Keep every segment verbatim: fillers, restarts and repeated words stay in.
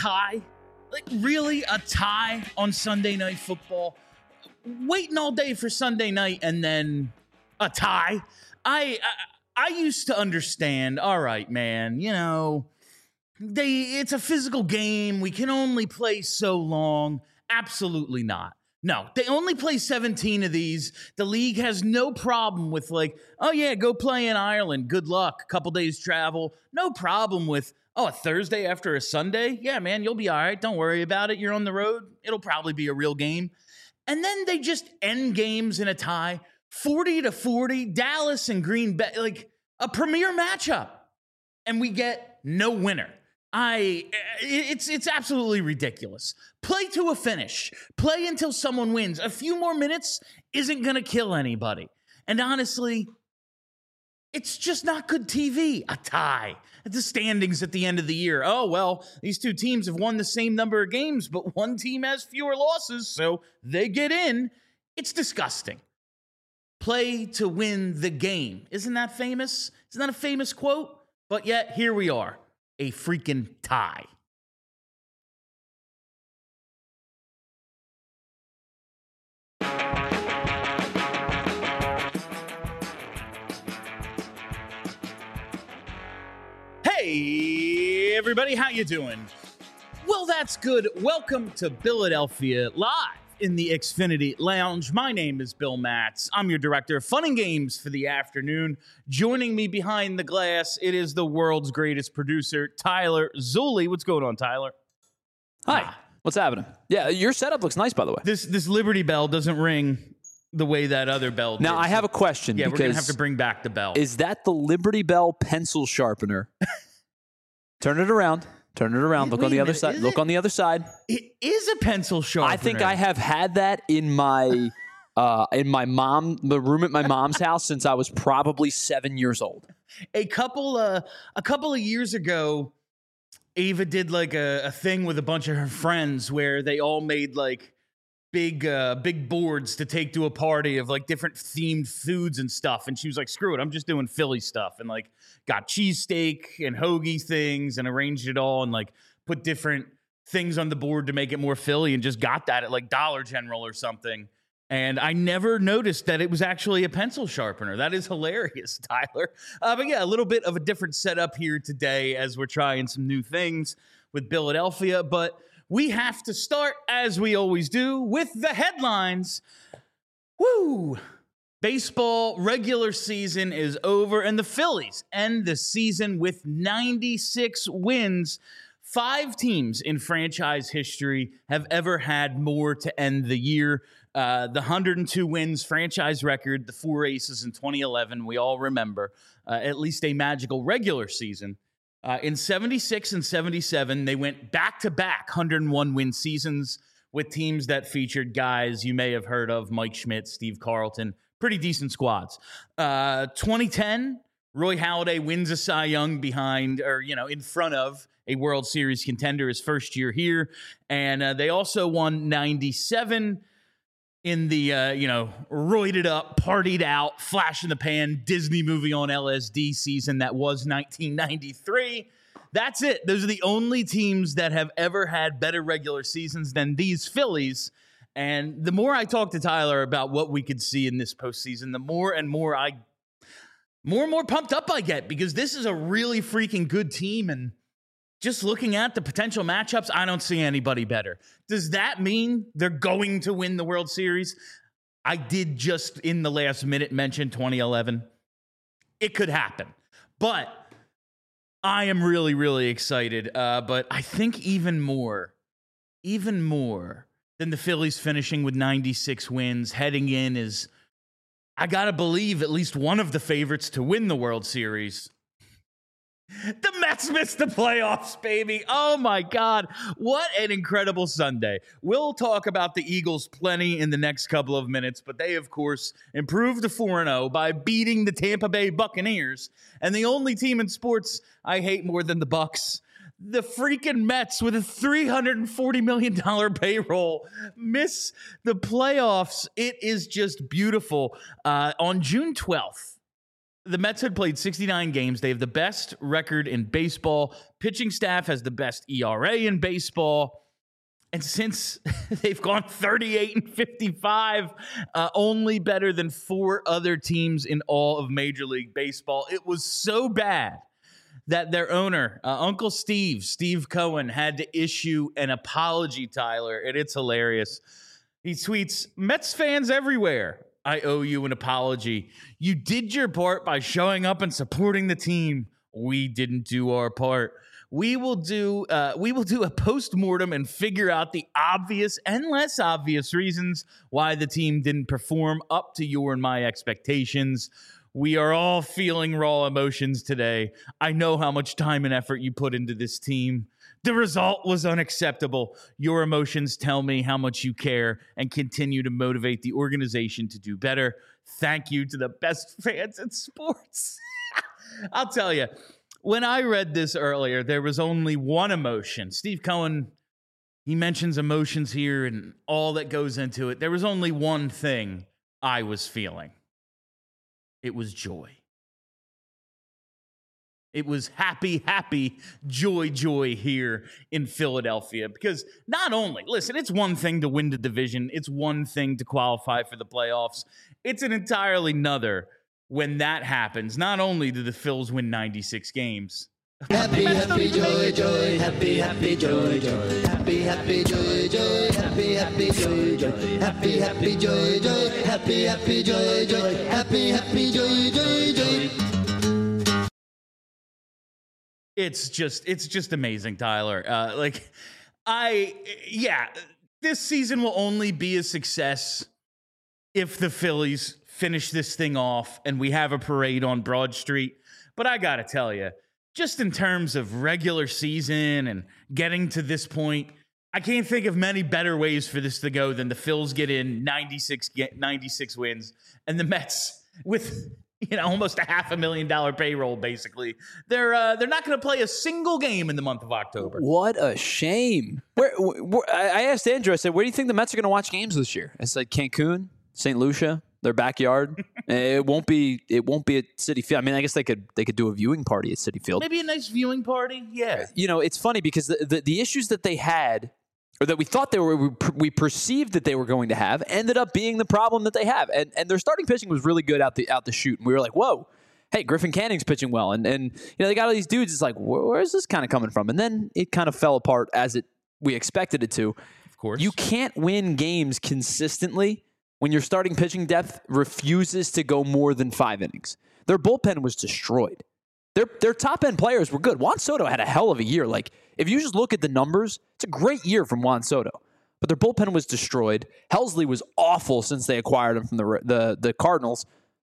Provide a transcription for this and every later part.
tie? Like, really? A tie on Sunday Night Football? Waiting all day for Sunday night and then a tie? I, I, I used to understand, all right, man, you know, they it's a physical game. We can only play so long. Absolutely not. No, they only play seventeen of these. The league has no problem with like, oh yeah, go play in Ireland. Good luck. Couple days travel. No problem with, oh, a Thursday after a Sunday? Yeah, man, you'll be all right. Don't worry about it. You're on the road. It'll probably be a real game. And then they just end games in a tie. forty to forty, Dallas and Green Bay, like a premier matchup. And we get no winner. I it's it's absolutely ridiculous. Play to a finish. Play until someone wins. A few more minutes isn't going to kill anybody. And honestly, it's just not good T V. A tie. The standings at the end of the year. Oh, well, these two teams have won the same number of games, but one team has fewer losses, so they get in. It's disgusting. Play to win the game. Isn't that famous? Isn't that a famous quote? But yet, here we are. A freaking tie. Hey, everybody, how you doing? Well, that's good. Welcome to Philadelphia Live in the Xfinity Lounge. My name is Bill Matz. I'm your director of fun and games for the afternoon. Joining me behind the glass, it is the world's greatest producer, Tyler Zulli. What's going on, Tyler? Hi. Ah. What's happening? Yeah, your setup looks nice, by the way. This this Liberty Bell doesn't ring the way that other bell did. Now, I have a question. Yeah, we're going to have to bring back the bell. Is that the Liberty Bell pencil sharpener? Turn it around. Turn it around. Look Wait on the other minute, side. Look it? on the other side. It is a pencil sharpener. I think I have had that in my uh, in my mom, the room at my mom's house since I was probably seven years old. A couple uh, a couple of years ago, Ava did like a, a thing with a bunch of her friends where they all made like big uh, big boards to take to a party of like different themed foods and stuff. And she was like, screw it, I'm just doing Philly stuff. And like got cheesesteak and hoagie things and arranged it all and like put different things on the board to make it more Philly and just got that at like Dollar General or something. And I never noticed that it was actually a pencil sharpener. That is hilarious, Tyler. Uh, but yeah, a little bit of a different setup here today as we're trying some new things with Philadelphia. But we have to start, as we always do, with the headlines. Woo! Baseball regular season is over, and the Phillies end the season with ninety-six wins. Five teams in franchise history have ever had more to end the year. Uh, the one hundred two wins franchise record, the four aces in twenty eleven, we all remember, uh, at least a magical regular season. Uh, in seventy-six and seventy-seven, they went back-to-back one hundred one win seasons with teams that featured guys you may have heard of, Mike Schmidt, Steve Carlton, pretty decent squads. Uh, twenty ten, Roy Halladay wins a Cy Young behind, or, you know, in front of a World Series contender his first year here. And uh, they also won ninety-seven in the, uh, you know, roided up, partied out, flash in the pan, Disney movie on L S D season that was nineteen ninety-three. That's it. Those are the only teams that have ever had better regular seasons than these Phillies. And the more I talk to Tyler about what we could see in this postseason, the more and more I, more and more pumped up I get, because this is a really freaking good team. And just looking at the potential matchups, I don't see anybody better. Does that mean they're going to win the World Series? I did just in the last minute mention twenty eleven. It could happen. But I am really, really excited. Uh, but I think even more, even more than the Phillies finishing with ninety-six wins, heading in is, I got to believe, at least one of the favorites to win the World Series. The Mets missed the playoffs, baby. Oh, my God. What an incredible Sunday. We'll talk about the Eagles plenty in the next couple of minutes, but they, of course, improved to four and oh by beating the Tampa Bay Buccaneers. And the only team in sports I hate more than the Bucs, the freaking Mets with a three hundred forty million dollars payroll, miss the playoffs. It is just beautiful. Uh, on June twelfth, the Mets had played sixty-nine games. They have the best record in baseball. Pitching staff has the best E R A in baseball. And since they've gone thirty-eight and fifty-five, uh, only better than four other teams in all of Major League Baseball, it was so bad that their owner, uh, Uncle Steve, Steve Cohen, had to issue an apology, Tyler, and it's hilarious. He tweets, "Mets fans everywhere, I owe you an apology. You did your part by showing up and supporting the team. We didn't do our part. We will do uh, we will do a post-mortem and figure out the obvious and less obvious reasons why the team didn't perform up to your and my expectations. We are all feeling raw emotions today. I know how much time and effort you put into this team. The result was unacceptable. Your emotions tell me how much you care and continue to motivate the organization to do better. Thank you to the best fans in sports." I'll tell you, when I read this earlier, there was only one emotion. Steve Cohen, he mentions emotions here and all that goes into it. There was only one thing I was feeling. It was joy. It was happy, happy, joy, joy here in Philadelphia. Because not only, listen, it's one thing to win the division. It's one thing to qualify for the playoffs. It's an entirely another when that happens. Not only do the Phils win ninety-six games. Happy, happy, joy, joy, happy, happy, joy, joy, happy, happy, joy, joy, happy, happy, joy, joy, happy, happy, joy, joy, happy, happy, joy, joy, happy, happy, joy, joy, joy. It's just, it's just amazing, Tyler. Uh, like, I, yeah, this season will only be a success if the Phillies finish this thing off and we have a parade on Broad Street. But I got to tell you, just in terms of regular season and getting to this point, I can't think of many better ways for this to go than the Phils get in ninety-six, get ninety-six wins, and the Mets with, you know, almost a half a million dollar payroll, basically. They're uh, they're not going to play a single game in the month of October. What a shame. Where, where I asked Andrew, I said, where do you think the Mets are going to watch games this year? I said Cancun, Saint Lucia, their backyard. It won't be. It won't be at Citi Field. I mean, I guess they could. They could do a viewing party at Citi Field. Maybe a nice viewing party. Yeah. You know, it's funny because the the, the issues that they had, or that we thought they were, we, we perceived that they were going to have, ended up being the problem that they have. And and their starting pitching was really good out the out the chute. And we were like, whoa, hey, Griffin Canning's pitching well. And and you know, they got all these dudes. It's like, where, where is this kind of coming from? And then it kind of fell apart as it we expected it to. Of course, you can't win games consistently when your starting pitching depth refuses to go more than five innings. Their bullpen was destroyed. Their their top end players were good. Juan Soto had a hell of a year. Like, if you just look at the numbers, it's a great year from Juan Soto. But their bullpen was destroyed. Helsley was awful since they acquired him from the the, the Cardinals.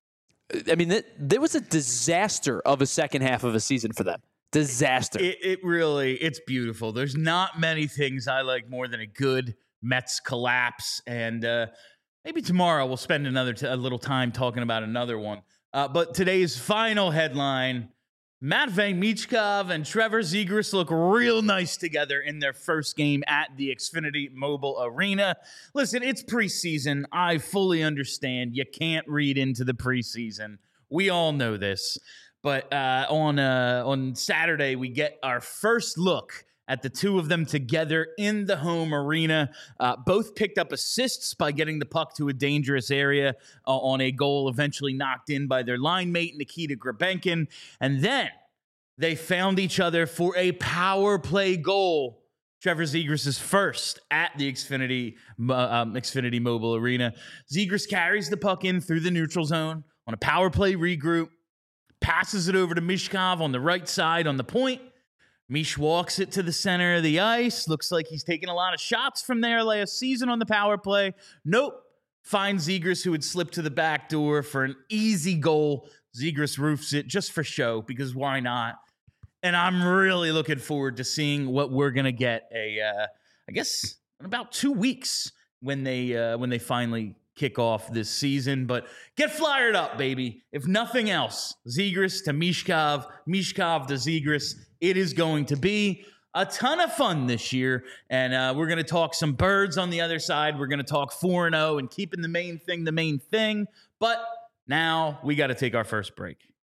I mean, it, there was a disaster of a second half of a season for them. Disaster. It, it really, it's beautiful. There's not many things I like more than a good Mets collapse. And uh, maybe tomorrow we'll spend another t- a little time talking about another one. Uh, but today's final headline, Matvei Michkov and Trevor Zegras look real nice together in their first game at the Xfinity Mobile Arena. Listen, it's preseason. I fully understand. You can't read into the preseason. We all know this. But uh, on uh, on Saturday, we get our first look at the two of them together in the home arena. Uh, both picked up assists by getting the puck to a dangerous area uh, on a goal eventually knocked in by their line mate, Nikita Grabenkin. And then they found each other for a power play goal. Trevor Zegras' first at the Xfinity, um, Xfinity Mobile Arena. Zegras carries the puck in through the neutral zone on a power play regroup, passes it over to Michkov on the right side on the point. Mish walks it to the center of the ice. Looks like he's taken a lot of shots from there last season on the power play. Nope. Finds Zegras, who had slipped to the back door for an easy goal. Zegras roofs it just for show, because why not? And I'm really looking forward to seeing what we're going to get, a, uh, I guess, in about two weeks when they uh, when they finally kick off this season. But get flyered up, baby. If nothing else, Zegras to Michkov, Michkov to Zegras. It is going to be a ton of fun this year, and uh, we're going to talk some birds on the other side. We're going to talk four and oh and keeping the main thing the main thing. But now we got to take our first break.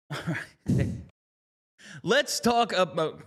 Let's talk about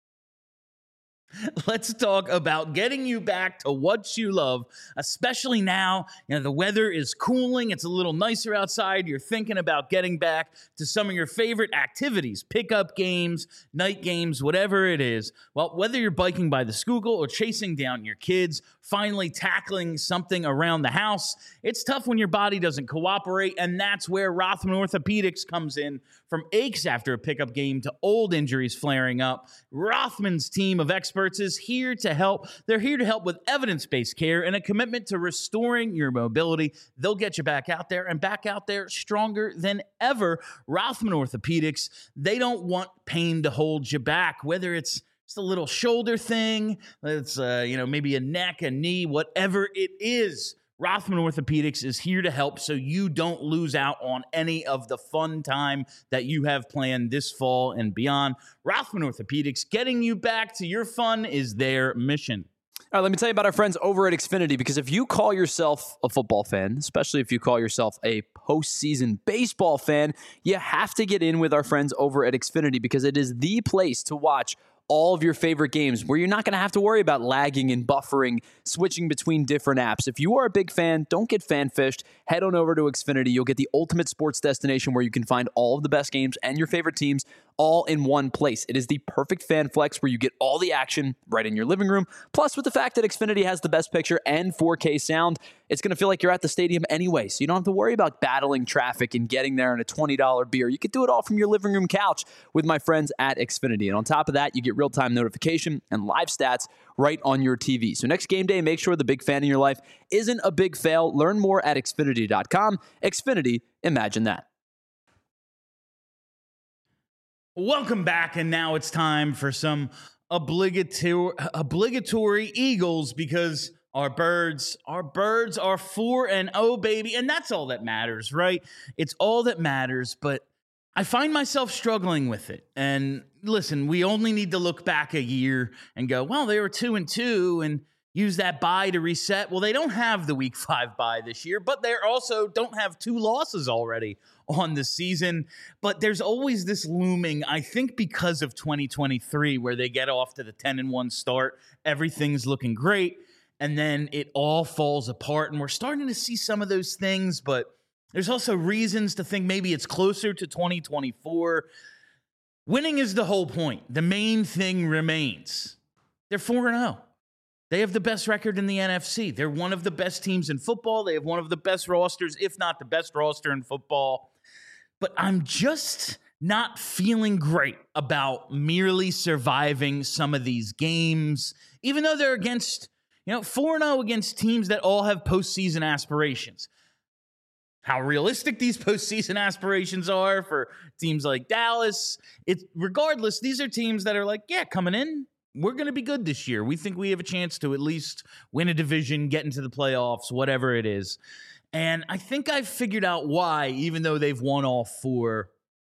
Let's talk about getting you back to what you love, especially now. You know, the weather is cooling. It's a little nicer outside. You're thinking about getting back to some of your favorite activities, pickup games, night games, whatever it is. Well, whether you're biking by the Schuylkill or chasing down your kids, finally tackling something around the house, it's tough when your body doesn't cooperate, and that's where Rothman Orthopedics comes in. From aches after a pickup game to old injuries flaring up, Rothman's team of experts is here to help. They're here to help with evidence-based care and a commitment to restoring your mobility. They'll get you back out there and back out there stronger than ever. Rothman Orthopedics, they don't want pain to hold you back, whether it's just a little shoulder thing, it's uh, you know, maybe a neck, a knee, whatever it is. Rothman Orthopedics is here to help so you don't lose out on any of the fun time that you have planned this fall and beyond. Rothman Orthopedics, getting you back to your fun is their mission. All right, let me tell you about our friends over at Xfinity, because if you call yourself a football fan, especially if you call yourself a postseason baseball fan, you have to get in with our friends over at Xfinity, because it is the place to watch all of your favorite games where you're not going to have to worry about lagging and buffering, switching between different apps. If you are a big fan, don't get fan-fished. Head on over to Xfinity. You'll get the ultimate sports destination where you can find all of the best games and your favorite teams all in one place. It is the perfect fan flex where you get all the action right in your living room. Plus, with the fact that Xfinity has the best picture and four K sound, it's going to feel like you're at the stadium anyway, so you don't have to worry about battling traffic and getting there in a twenty dollar beer. You could do it all from your living room couch with my friends at Xfinity. And on top of that, you get real-time notification and live stats right on your T V. So next game day, make sure the big fan in your life isn't a big fail. Learn more at Xfinity dot com. Xfinity, imagine that. Welcome back, and now it's time for some obligatory obligatory Eagles, because our birds, our birds are four and oh, baby, and that's all that matters, right? It's all that matters, but I find myself struggling with it. And listen, we only need to look back a year and go, well, they were two and two, and use that bye to reset. Well, they don't have the week five bye this year, but they also don't have two losses already on the season. But there's always this looming, I think because of twenty twenty-three, where they get off to the ten and one start, everything's looking great, and then it all falls apart. And we're starting to see some of those things, but there's also reasons to think maybe it's closer to twenty twenty-four. Winning is the whole point. The main thing remains. They're four and oh. They have the best record in the N F C. They're one of the best teams in football. They have one of the best rosters, if not the best roster in football. But I'm just not feeling great about merely surviving some of these games, even though they're against, you know, four and oh against teams that all have postseason aspirations. How realistic these postseason aspirations are for teams like Dallas, it's regardless, these are teams that are like, yeah, coming in, we're going to be good this year. We think we have a chance to at least win a division, get into the playoffs, whatever it is. And I think I've figured out why, even though they've won all four,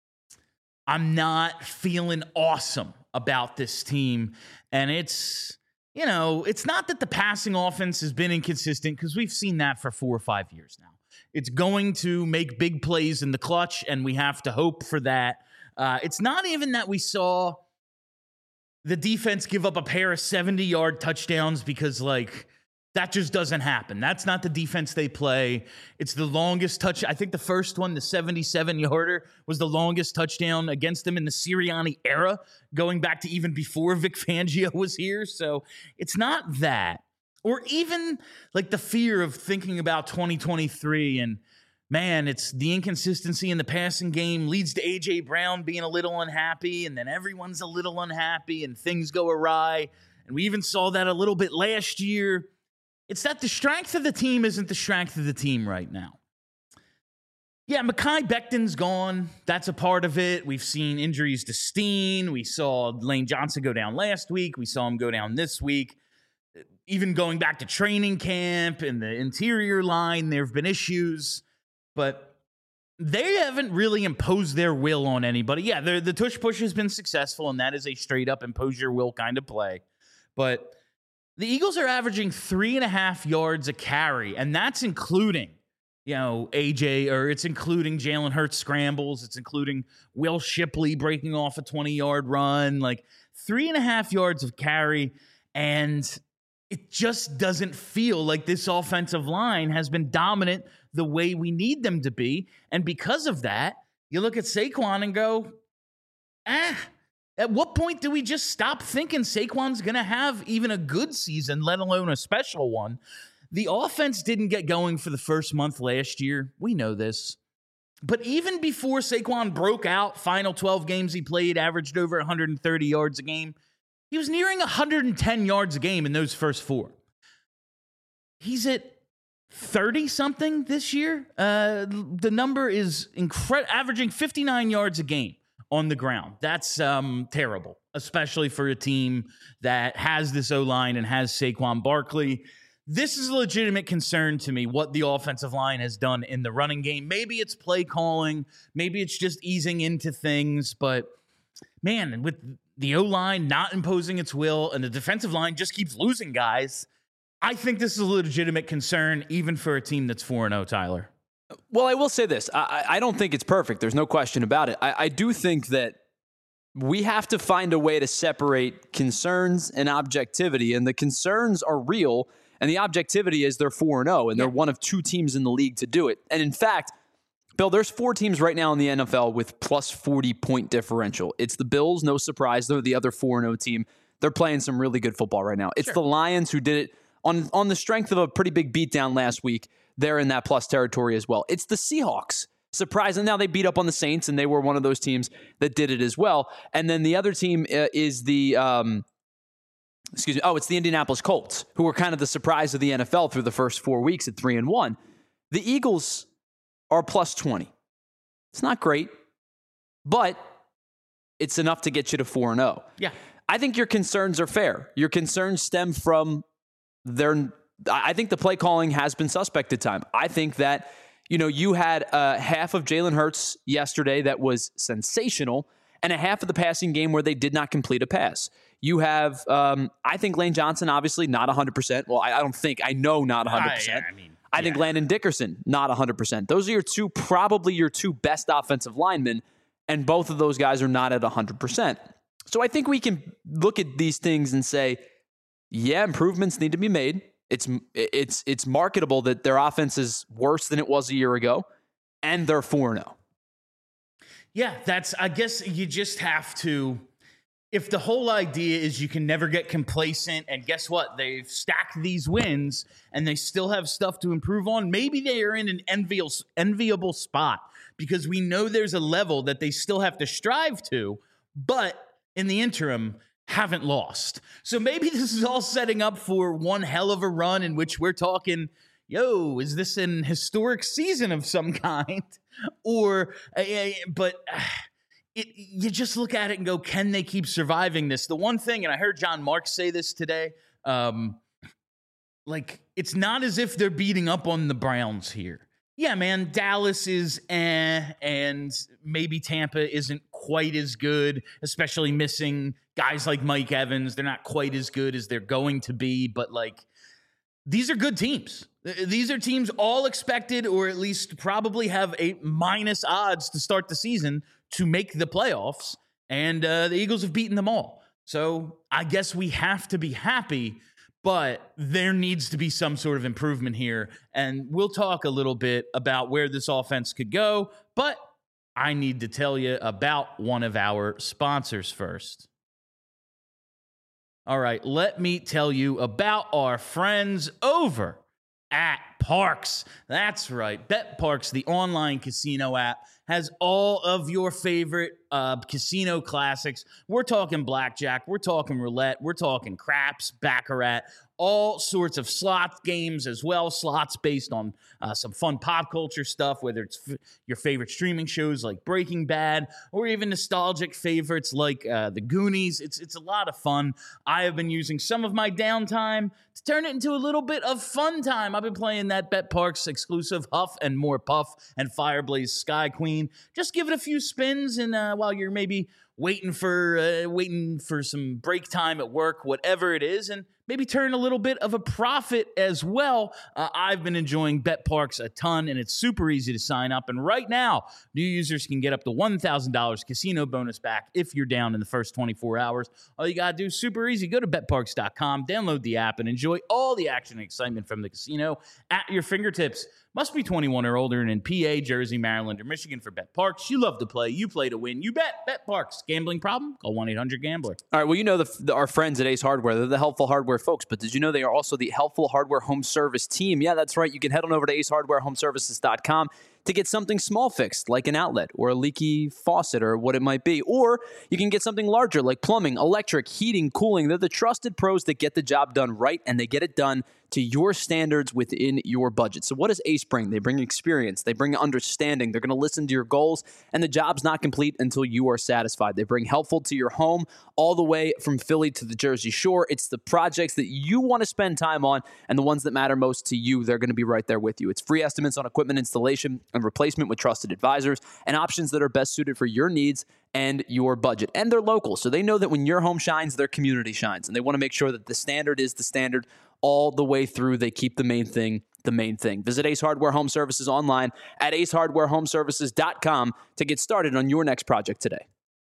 I'm not feeling awesome about this team. And it's, you know, it's not that the passing offense has been inconsistent, because we've seen that for four or five years now. It's going to make big plays in the clutch, and we have to hope for that. Uh, it's not even that we saw the defense give up a pair of seventy-yard touchdowns, because, like, that just doesn't happen. That's not the defense they play. It's the longest touch. I think the first one, the seventy-seven-yarder, was the longest touchdown against them in the Sirianni era, going back to even before Vic Fangio was here. So it's not that. Or even, like, the fear of thinking about twenty twenty-three and, man, it's the inconsistency in the passing game leads to A J Brown being a little unhappy, and then everyone's a little unhappy, and things go awry. And we even saw that a little bit last year. It's that the strength of the team isn't the strength of the team right now. Yeah, Mekhi Becton's gone. That's a part of it. We've seen injuries to Steen. We saw Lane Johnson go down last week. We saw him go down this week. Even going back to training camp and the interior line, there have been issues. But they haven't really imposed their will on anybody. Yeah, the tush push has been successful, and that is a straight-up impose your will kind of play. But the Eagles are averaging three and a half yards a carry, and that's including you know, A J, or it's including Jalen Hurts scrambles. It's including Will Shipley breaking off a twenty-yard run, like three and a half yards of carry. And it just doesn't feel like this offensive line has been dominant the way we need them to be. And because of that, you look at Saquon and go, ah, at what point do we just stop thinking Saquon's going to have even a good season, let alone a special one? The offense didn't get going for the first month last year. We know this. But even before Saquon broke out, final twelve games he played, averaged over one hundred thirty yards a game. He was nearing one hundred ten yards a game in those first four. He's at thirty-something this year. Uh, the number is incredible, averaging fifty-nine yards a game on the ground. That's um, terrible, especially for a team that has this O-line and has Saquon Barkley. This is a legitimate concern to me, what the offensive line has done in the running game. Maybe it's play calling. Maybe it's just easing into things. But, man, with the O-line not imposing its will and the defensive line just keeps losing guys, I think this is a legitimate concern, even for a team that's four and oh, Tyler. Well, I will say this. I, I don't think it's perfect. There's no question about it. I, I do think that we have to find a way to separate concerns and objectivity. And the concerns are real. And the objectivity is they're four and oh, and they're one of two teams in the league to do it. And in fact, Bill, there's four teams right now in the N F L with plus forty point differential. It's the Bills, no surprise. They're the other four and oh team. They're playing some really good football right now. It's sure. the Lions who did it on, on the strength of a pretty big beatdown last week. They're in that plus territory as well. It's the Seahawks. Surprising. Now they beat up on the Saints, and they were one of those teams that did it as well. And then the other team uh, is the... Um, Excuse me. Oh, it's the Indianapolis Colts, who were kind of the surprise of the N F L through the first four weeks at three and one. The Eagles are plus twenty. It's not great, but it's enough to get you to four and oh. Yeah. I think your concerns are fair. Your concerns stem from their, I think the play calling has been suspect at time. I think that, you know, you had uh, half of Jalen Hurts yesterday that was sensational, and a half of the passing game where they did not complete a pass. You have, um, I think Lane Johnson, obviously not one hundred percent. Well, I, I don't think, I know not one hundred percent. I, I, mean, I think yeah. Landon Dickerson, not one hundred percent. Those are your two, probably your two best offensive linemen, and both of those guys are not at one hundred percent. So I think we can look at these things and say, yeah, improvements need to be made. It's it's it's marketable that their offense is worse than it was a year ago, and they're four and oh. Yeah, that's, I guess you just have to, if the whole idea is you can never get complacent, and guess what? They've stacked these wins and they still have stuff to improve on. Maybe they are in an enviable, enviable spot because we know there's a level that they still have to strive to, but in the interim, haven't lost. So maybe this is all setting up for one hell of a run in which we're talking, yo, is this an historic season of some kind? Or, uh, but uh, it, you just look at it and go, can they keep surviving this? The one thing, and I heard John Marks say this today, um, like, it's not as if they're beating up on the Browns here. Yeah, man, Dallas is eh, and maybe Tampa isn't quite as good, especially missing guys like Mike Evans. They're not quite as good as they're going to be, but, like, these are good teams. These are teams all expected, or at least probably have a minus odds to start the season to make the playoffs, and uh, the Eagles have beaten them all. So I guess we have to be happy, but there needs to be some sort of improvement here, and we'll talk a little bit about where this offense could go, but I need to tell you about one of our sponsors first. All right, let me tell you about our friends over at Parx. That's right. BetParx, the online casino app, has all of your favorite uh, casino classics. We're talking blackjack. We're talking roulette. We're talking craps, baccarat, all sorts of slot games as well. Slots based on uh, some fun pop culture stuff, whether it's f- your favorite streaming shows like Breaking Bad or even nostalgic favorites like uh, The Goonies. It's, it's a lot of fun. I have been using some of my downtime to turn it into a little bit of fun time. I've been playing that BetParx exclusive Huff and More Puff and Fireblaze Sky Queen. Just give it a few spins, and uh, while you're maybe waiting for uh, waiting for some break time at work, whatever it is, and maybe turn a little bit of a profit as well. Uh, I've been enjoying BetParks a ton, and it's super easy to sign up. And right now, new users can get up to one thousand dollars casino bonus back if you're down in the first twenty-four hours. All you got to do is super easy. Go to bet parks dot com, download the app, and enjoy all the action and excitement from the casino at your fingertips. Must be twenty-one or older and in P A, Jersey, Maryland, or Michigan for BetParks. You love to play. You play to win. You bet. BetParks. Gambling problem? Call one eight hundred gambler. All right, well, you know the, the, our friends at Ace Hardware. They're the helpful hardware folks, but did you know they are also the helpful hardware home service team? Yeah, that's right. You can head on over to ace hardware home services dot com to get something small fixed, like an outlet or a leaky faucet or what it might be. Or you can get something larger, like plumbing, electric, heating, cooling. They're the trusted pros that get the job done right, and they get it done to your standards within your budget. So what does Ace bring? They bring experience. They bring understanding. They're going to listen to your goals, and the job's not complete until you are satisfied. They bring helpful to your home all the way from Philly to the Jersey Shore. It's the projects that you want to spend time on and the ones that matter most to you. They're going to be right there with you. It's free estimates on equipment installation and replacement with trusted advisors and options that are best suited for your needs and your budget. And they're local, so they know that when your home shines, their community shines. And they want to make sure that the standard is the standard all the way through. They keep the main thing the main thing. Visit Ace Hardware Home Services online at ace hardware home services dot com to get started on your next project today.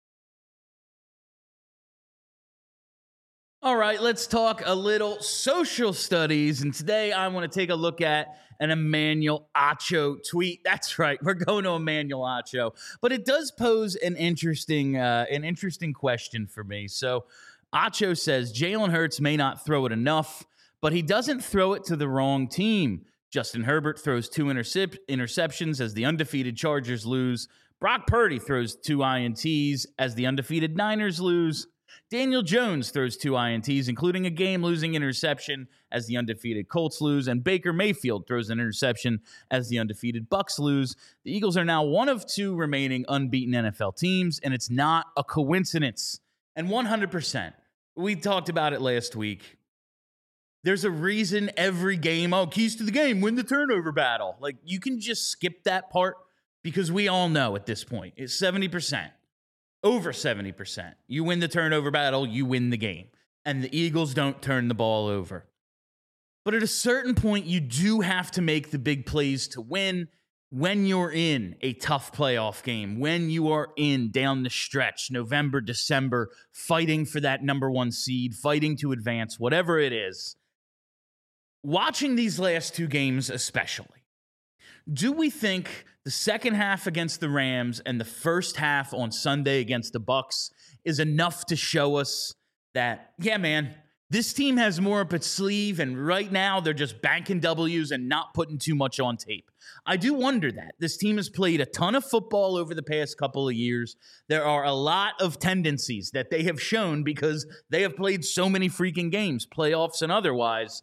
All right, let's talk a little social studies. And today I want to take a look at an Emmanuel Acho tweet. That's right, we're going to Emmanuel Acho. But it does pose an interesting, uh, an interesting question for me. So Acho says, Jalen Hurts may not throw it enough, but he doesn't throw it to the wrong team. Justin Herbert throws two intercep- interceptions as the undefeated Chargers lose. Brock Purdy throws two I N Ts as the undefeated Niners lose. Daniel Jones throws two I N Ts, including a game-losing interception as the undefeated Colts lose, and Baker Mayfield throws an interception as the undefeated Bucs lose. The Eagles are now one of two remaining unbeaten N F L teams, and it's not a coincidence. And one hundred percent, we talked about it last week. There's a reason every game, oh, keys to the game, win the turnover battle. Like, you can just skip that part because we all know at this point, it's seventy percent. Over seventy percent. You win the turnover battle, you win the game. And the Eagles don't turn the ball over. But at a certain point, you do have to make the big plays to win when you're in a tough playoff game, when you are in down the stretch, November, December, fighting for that number one seed, fighting to advance, whatever it is. Watching these last two games especially, do we think the second half against the Rams and the first half on Sunday against the Bucs is enough to show us that, yeah, man, this team has more up its sleeve, and right now they're just banking W's and not putting too much on tape? I do wonder that. This team has played a ton of football over the past couple of years. There are a lot of tendencies that they have shown because they have played so many freaking games, playoffs and otherwise.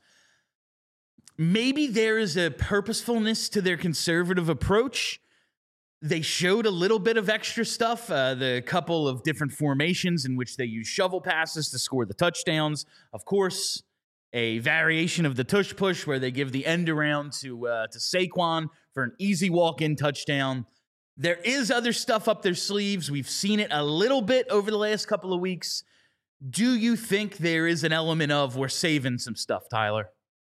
Maybe there is a purposefulness to their conservative approach. They showed a little bit of extra stuff, uh, the couple of different formations in which they use shovel passes to score the touchdowns. Of course, a variation of the tush push where they give the end around to, uh, to Saquon for an easy walk-in touchdown. There is other stuff up their sleeves. We've seen it a little bit over the last couple of weeks. Do you think there is an element of we're saving some stuff, Tyler?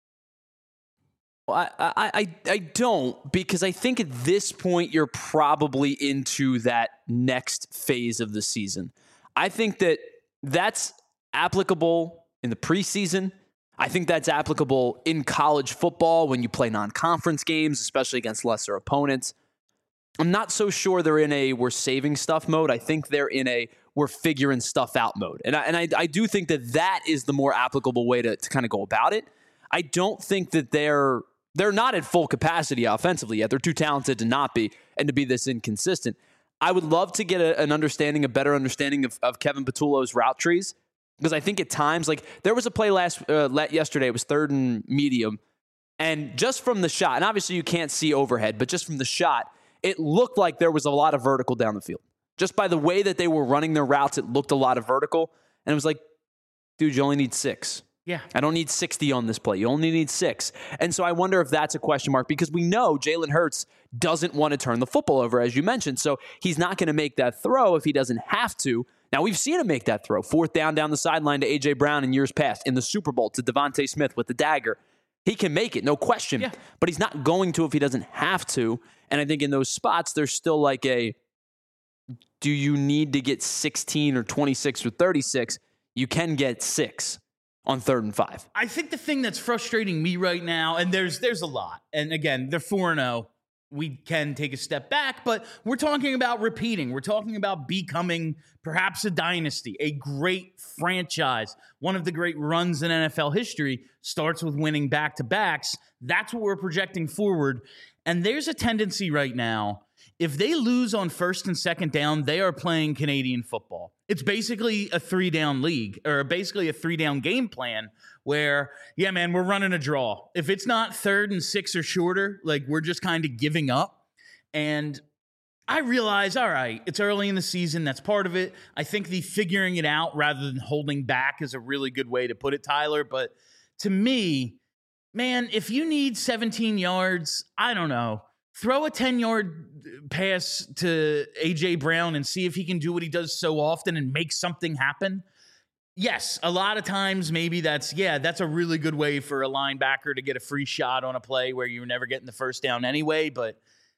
I, I, I, I don't, because I think at this point you're probably into that next phase of the season. I think that that's applicable in the preseason. I think that's applicable in college football when you play non-conference games, especially against lesser opponents. I'm not so sure they're in a we're saving stuff mode. I think they're in a we're figuring stuff out mode. And I, and I, I do think that that is the more applicable way to, to kind of go about it. I don't think that they're They're not at full capacity offensively yet. They're too talented to not be and to be this inconsistent. I would love to get a, an understanding, a better understanding of, of Kevin Patullo's route trees, because I think at times, like there was a play last uh, yesterday, it was third and medium, and just from the shot, and obviously you can't see overhead, but just from the shot, it looked like there was a lot of vertical down the field. Just by the way that they were running their routes, it looked a lot of vertical, and it was like, dude, you only need six. Yeah. I don't need sixty on this play. You only need six. And so I wonder if that's a question mark, because we know Jalen Hurts doesn't want to turn the football over, as you mentioned. So he's not going to make that throw if he doesn't have to. Now, we've seen him make that throw. Fourth down down the sideline to A J. Brown in years past. In the Super Bowl to Devontae Smith with the dagger. He can make it, no question. Yeah. But he's not going to if he doesn't have to. And I think in those spots, there's still like a, do you need to get sixteen or twenty-six or thirty-six? You can get six on third and five. I think the thing that's frustrating me right now, and there's there's a lot, and again, they're four and oh. We can take a step back, but we're talking about repeating. We're talking about becoming perhaps a dynasty, a great franchise. One of the great runs in N F L history starts with winning back-to-backs. That's what we're projecting forward. And there's a tendency right now, if they lose on first and second down, they are playing Canadian football. It's basically a three-down league, or basically a three-down game plan where, yeah, man, we're running a draw. If it's not third and six or shorter, like, we're just kind of giving up. And I realize, all right, it's early in the season. That's part of it. I think the figuring it out rather than holding back is a really good way to put it, Tyler. But to me, man, if you need seventeen yards, I don't know. Throw a ten-yard pass to A J. Brown and see if he can do what he does so often and make something happen. Yes, a lot of times maybe that's, yeah, that's a really good way for a linebacker to get a free shot on a play where you're never getting the first down anyway. But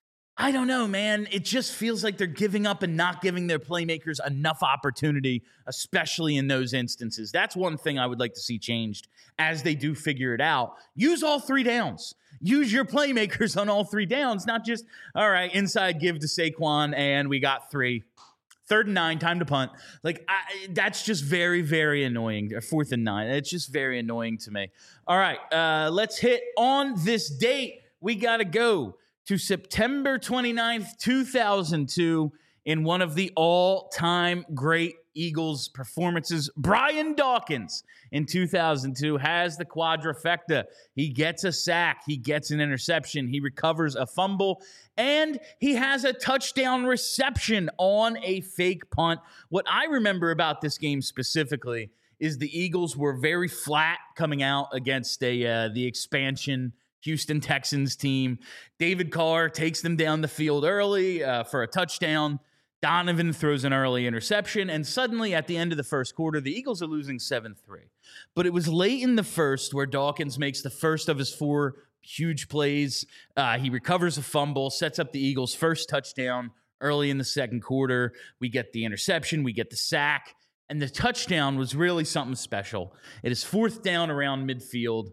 I don't know, man. It just feels like they're giving up and not giving their playmakers enough opportunity, especially in those instances. That's one thing I would like to see changed as they do figure it out. Use all three downs. Use your playmakers on all three downs, not just, all right, inside give to Saquon, and we got three. Third and nine, time to punt. Like, I, that's just very, very annoying. Or fourth and nine. It's just very annoying to me. All right, uh, let's hit on this date. We got to go to September twenty-ninth, two thousand two, in one of the all-time great Eagles performances. Brian Dawkins in two thousand two has the quadrifecta. He gets a sack. He gets an interception. He recovers a fumble. And he has a touchdown reception on a fake punt. What I remember about this game specifically is the Eagles were very flat coming out against a uh, the expansion Houston Texans team. David Carr takes them down the field early uh, for a touchdown. Donovan throws an early interception, and suddenly at the end of the first quarter, the Eagles are losing seven three. But it was late in the first where Dawkins makes the first of his four huge plays. Uh, he recovers a fumble, sets up the Eagles' first touchdown early in the second quarter. We get the interception, we get the sack, and the touchdown was really something special. It is fourth down around midfield.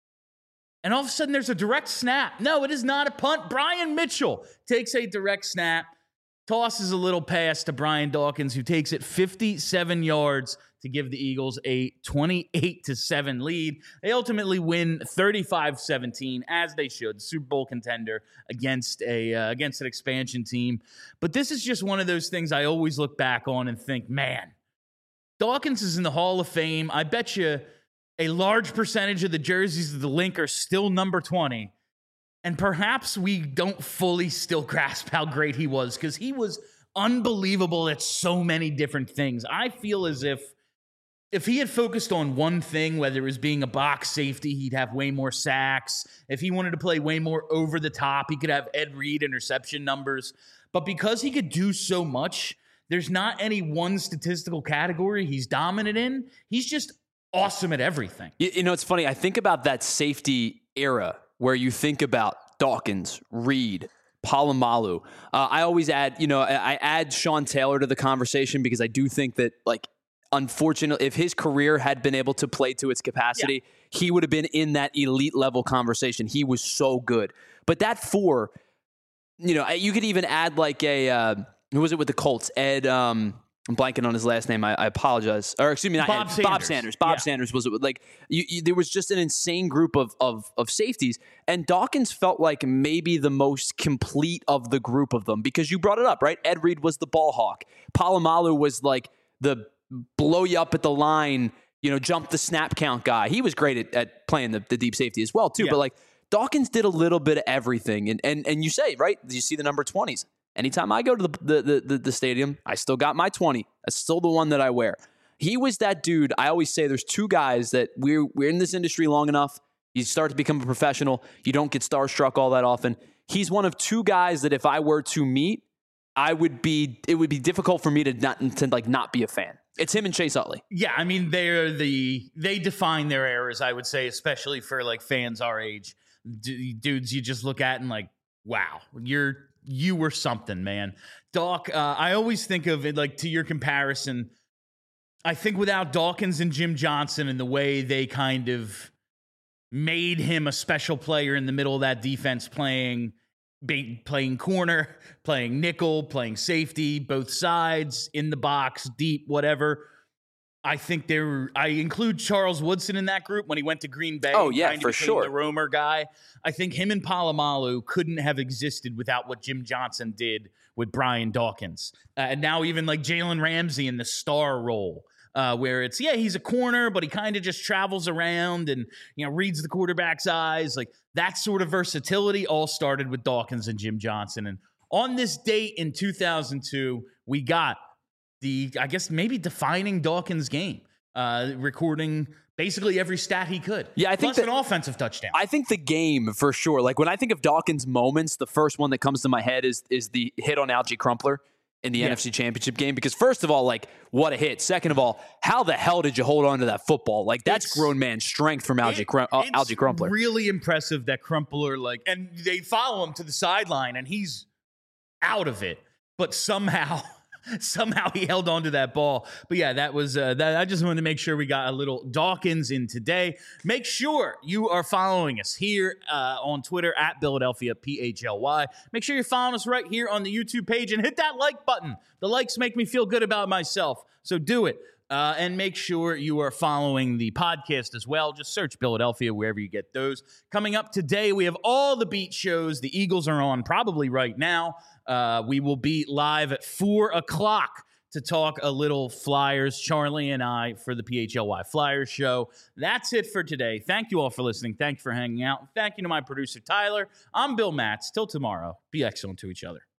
And all of a sudden, there's a direct snap. No, it is not a punt. Brian Mitchell takes a direct snap, tosses a little pass to Brian Dawkins, who takes it fifty-seven yards to give the Eagles a twenty-eight to seven lead. They ultimately win thirty-five seventeen, as they should. Super Bowl contender against a uh, against an expansion team. But this is just one of those things I always look back on and think, man, Dawkins is in the Hall of Fame. I bet you a large percentage of the jerseys of the link are still number twenty. And perhaps we don't fully still grasp how great he was, because he was unbelievable at so many different things. I feel as if if he had focused on one thing, whether it was being a box safety, he'd have way more sacks. If he wanted to play way more over the top, he could have Ed Reed interception numbers. But because he could do so much, there's not any one statistical category he's dominant in. He's just awesome at everything. You, you know, it's funny. I think about that safety era where you think about Dawkins, Reed, Palomalu. Uh, I always add, you know, I, I add Sean Taylor to the conversation because I do think that, like, unfortunately, if his career had been able to play to its capacity, yeah. he would have been in that elite level conversation. He was so good. But that four, you know, you could even add like a, uh, who was it with the Colts? Ed, um, I'm blanking on his last name. I, I apologize. Or excuse me, not Bob Ed, Sanders. Bob Sanders. Bob Yeah. Sanders was it like you, you, there was just an insane group of, of of safeties, and Dawkins felt like maybe the most complete of the group of them because you brought it up, right? Ed Reed was the ball hawk. Palomalu was like the blow you up at the line, you know, jump the snap count guy. He was great at, at playing the, the deep safety as well too. Yeah. But like Dawkins did a little bit of everything, and and and you say right, you see the number twenties. Anytime I go to the, the the the stadium, I still got my twenty. That's still the one that I wear. He was that dude. I always say there's two guys that we're we're in this industry long enough. You start to become a professional. You don't get starstruck all that often. He's one of two guys that if I were to meet, I would be. It would be difficult for me to not to like not be a fan. It's him and Chase Utley. Yeah, I mean they're the they define their eras. I would say, especially for like fans our age, D- dudes you just look at and like, wow, you're you were something, man. Doc, uh, I always think of it like to your comparison. I think without Dawkins and Jim Johnson and the way they kind of made him a special player in the middle of that defense, playing. Be, playing corner, playing nickel, playing safety, both sides, in the box, deep, whatever. I think there. I include Charles Woodson in that group when he went to Green Bay. Oh, yeah, kind of for became sure. The roamer guy. I think him and Palomalu couldn't have existed without what Jim Johnson did with Brian Dawkins. Uh, and now even like Jalen Ramsey in the star role. Uh, where it's, yeah, he's a corner, but he kind of just travels around and, you know, reads the quarterback's eyes. Like that sort of versatility all started with Dawkins and Jim Johnson. And on this date in two thousand two, we got the, I guess, maybe defining Dawkins game, uh, recording basically every stat he could. Yeah, I think Plus that, an offensive touchdown. I think the game for sure. Like when I think of Dawkins moments, the first one that comes to my head is is the hit on Algie Crumpler in the yeah. N F C Championship game. Because first of all, like, what a hit. Second of all, how the hell did you hold on to that football? Like, that's it's, grown man strength from Algie, it, Crum- uh, Algie Crumpler. It's really impressive that Crumpler, like, and they follow him to the sideline, and he's out of it. But somehow... Somehow he held on to that ball. But yeah, that was uh, that. I just wanted to make sure we got a little Dawkins in today. Make sure you are following us here uh, on Twitter at Philadelphia P H L Y. Make sure you're following us right here on the YouTube page and hit that like button. The likes make me feel good about myself. So do it. Uh, and make sure you are following the podcast as well. Just search Philadelphia wherever you get those. Coming up today, we have all the beat shows. The Eagles are on probably right now. Uh, we will be live at four o'clock to talk a little Flyers, Charlie and I, for the P H L Y Flyers show. That's it for today. Thank you all for listening. Thank you for hanging out. Thank you to my producer, Tyler. I'm Bill Matz. Till tomorrow, be excellent to each other.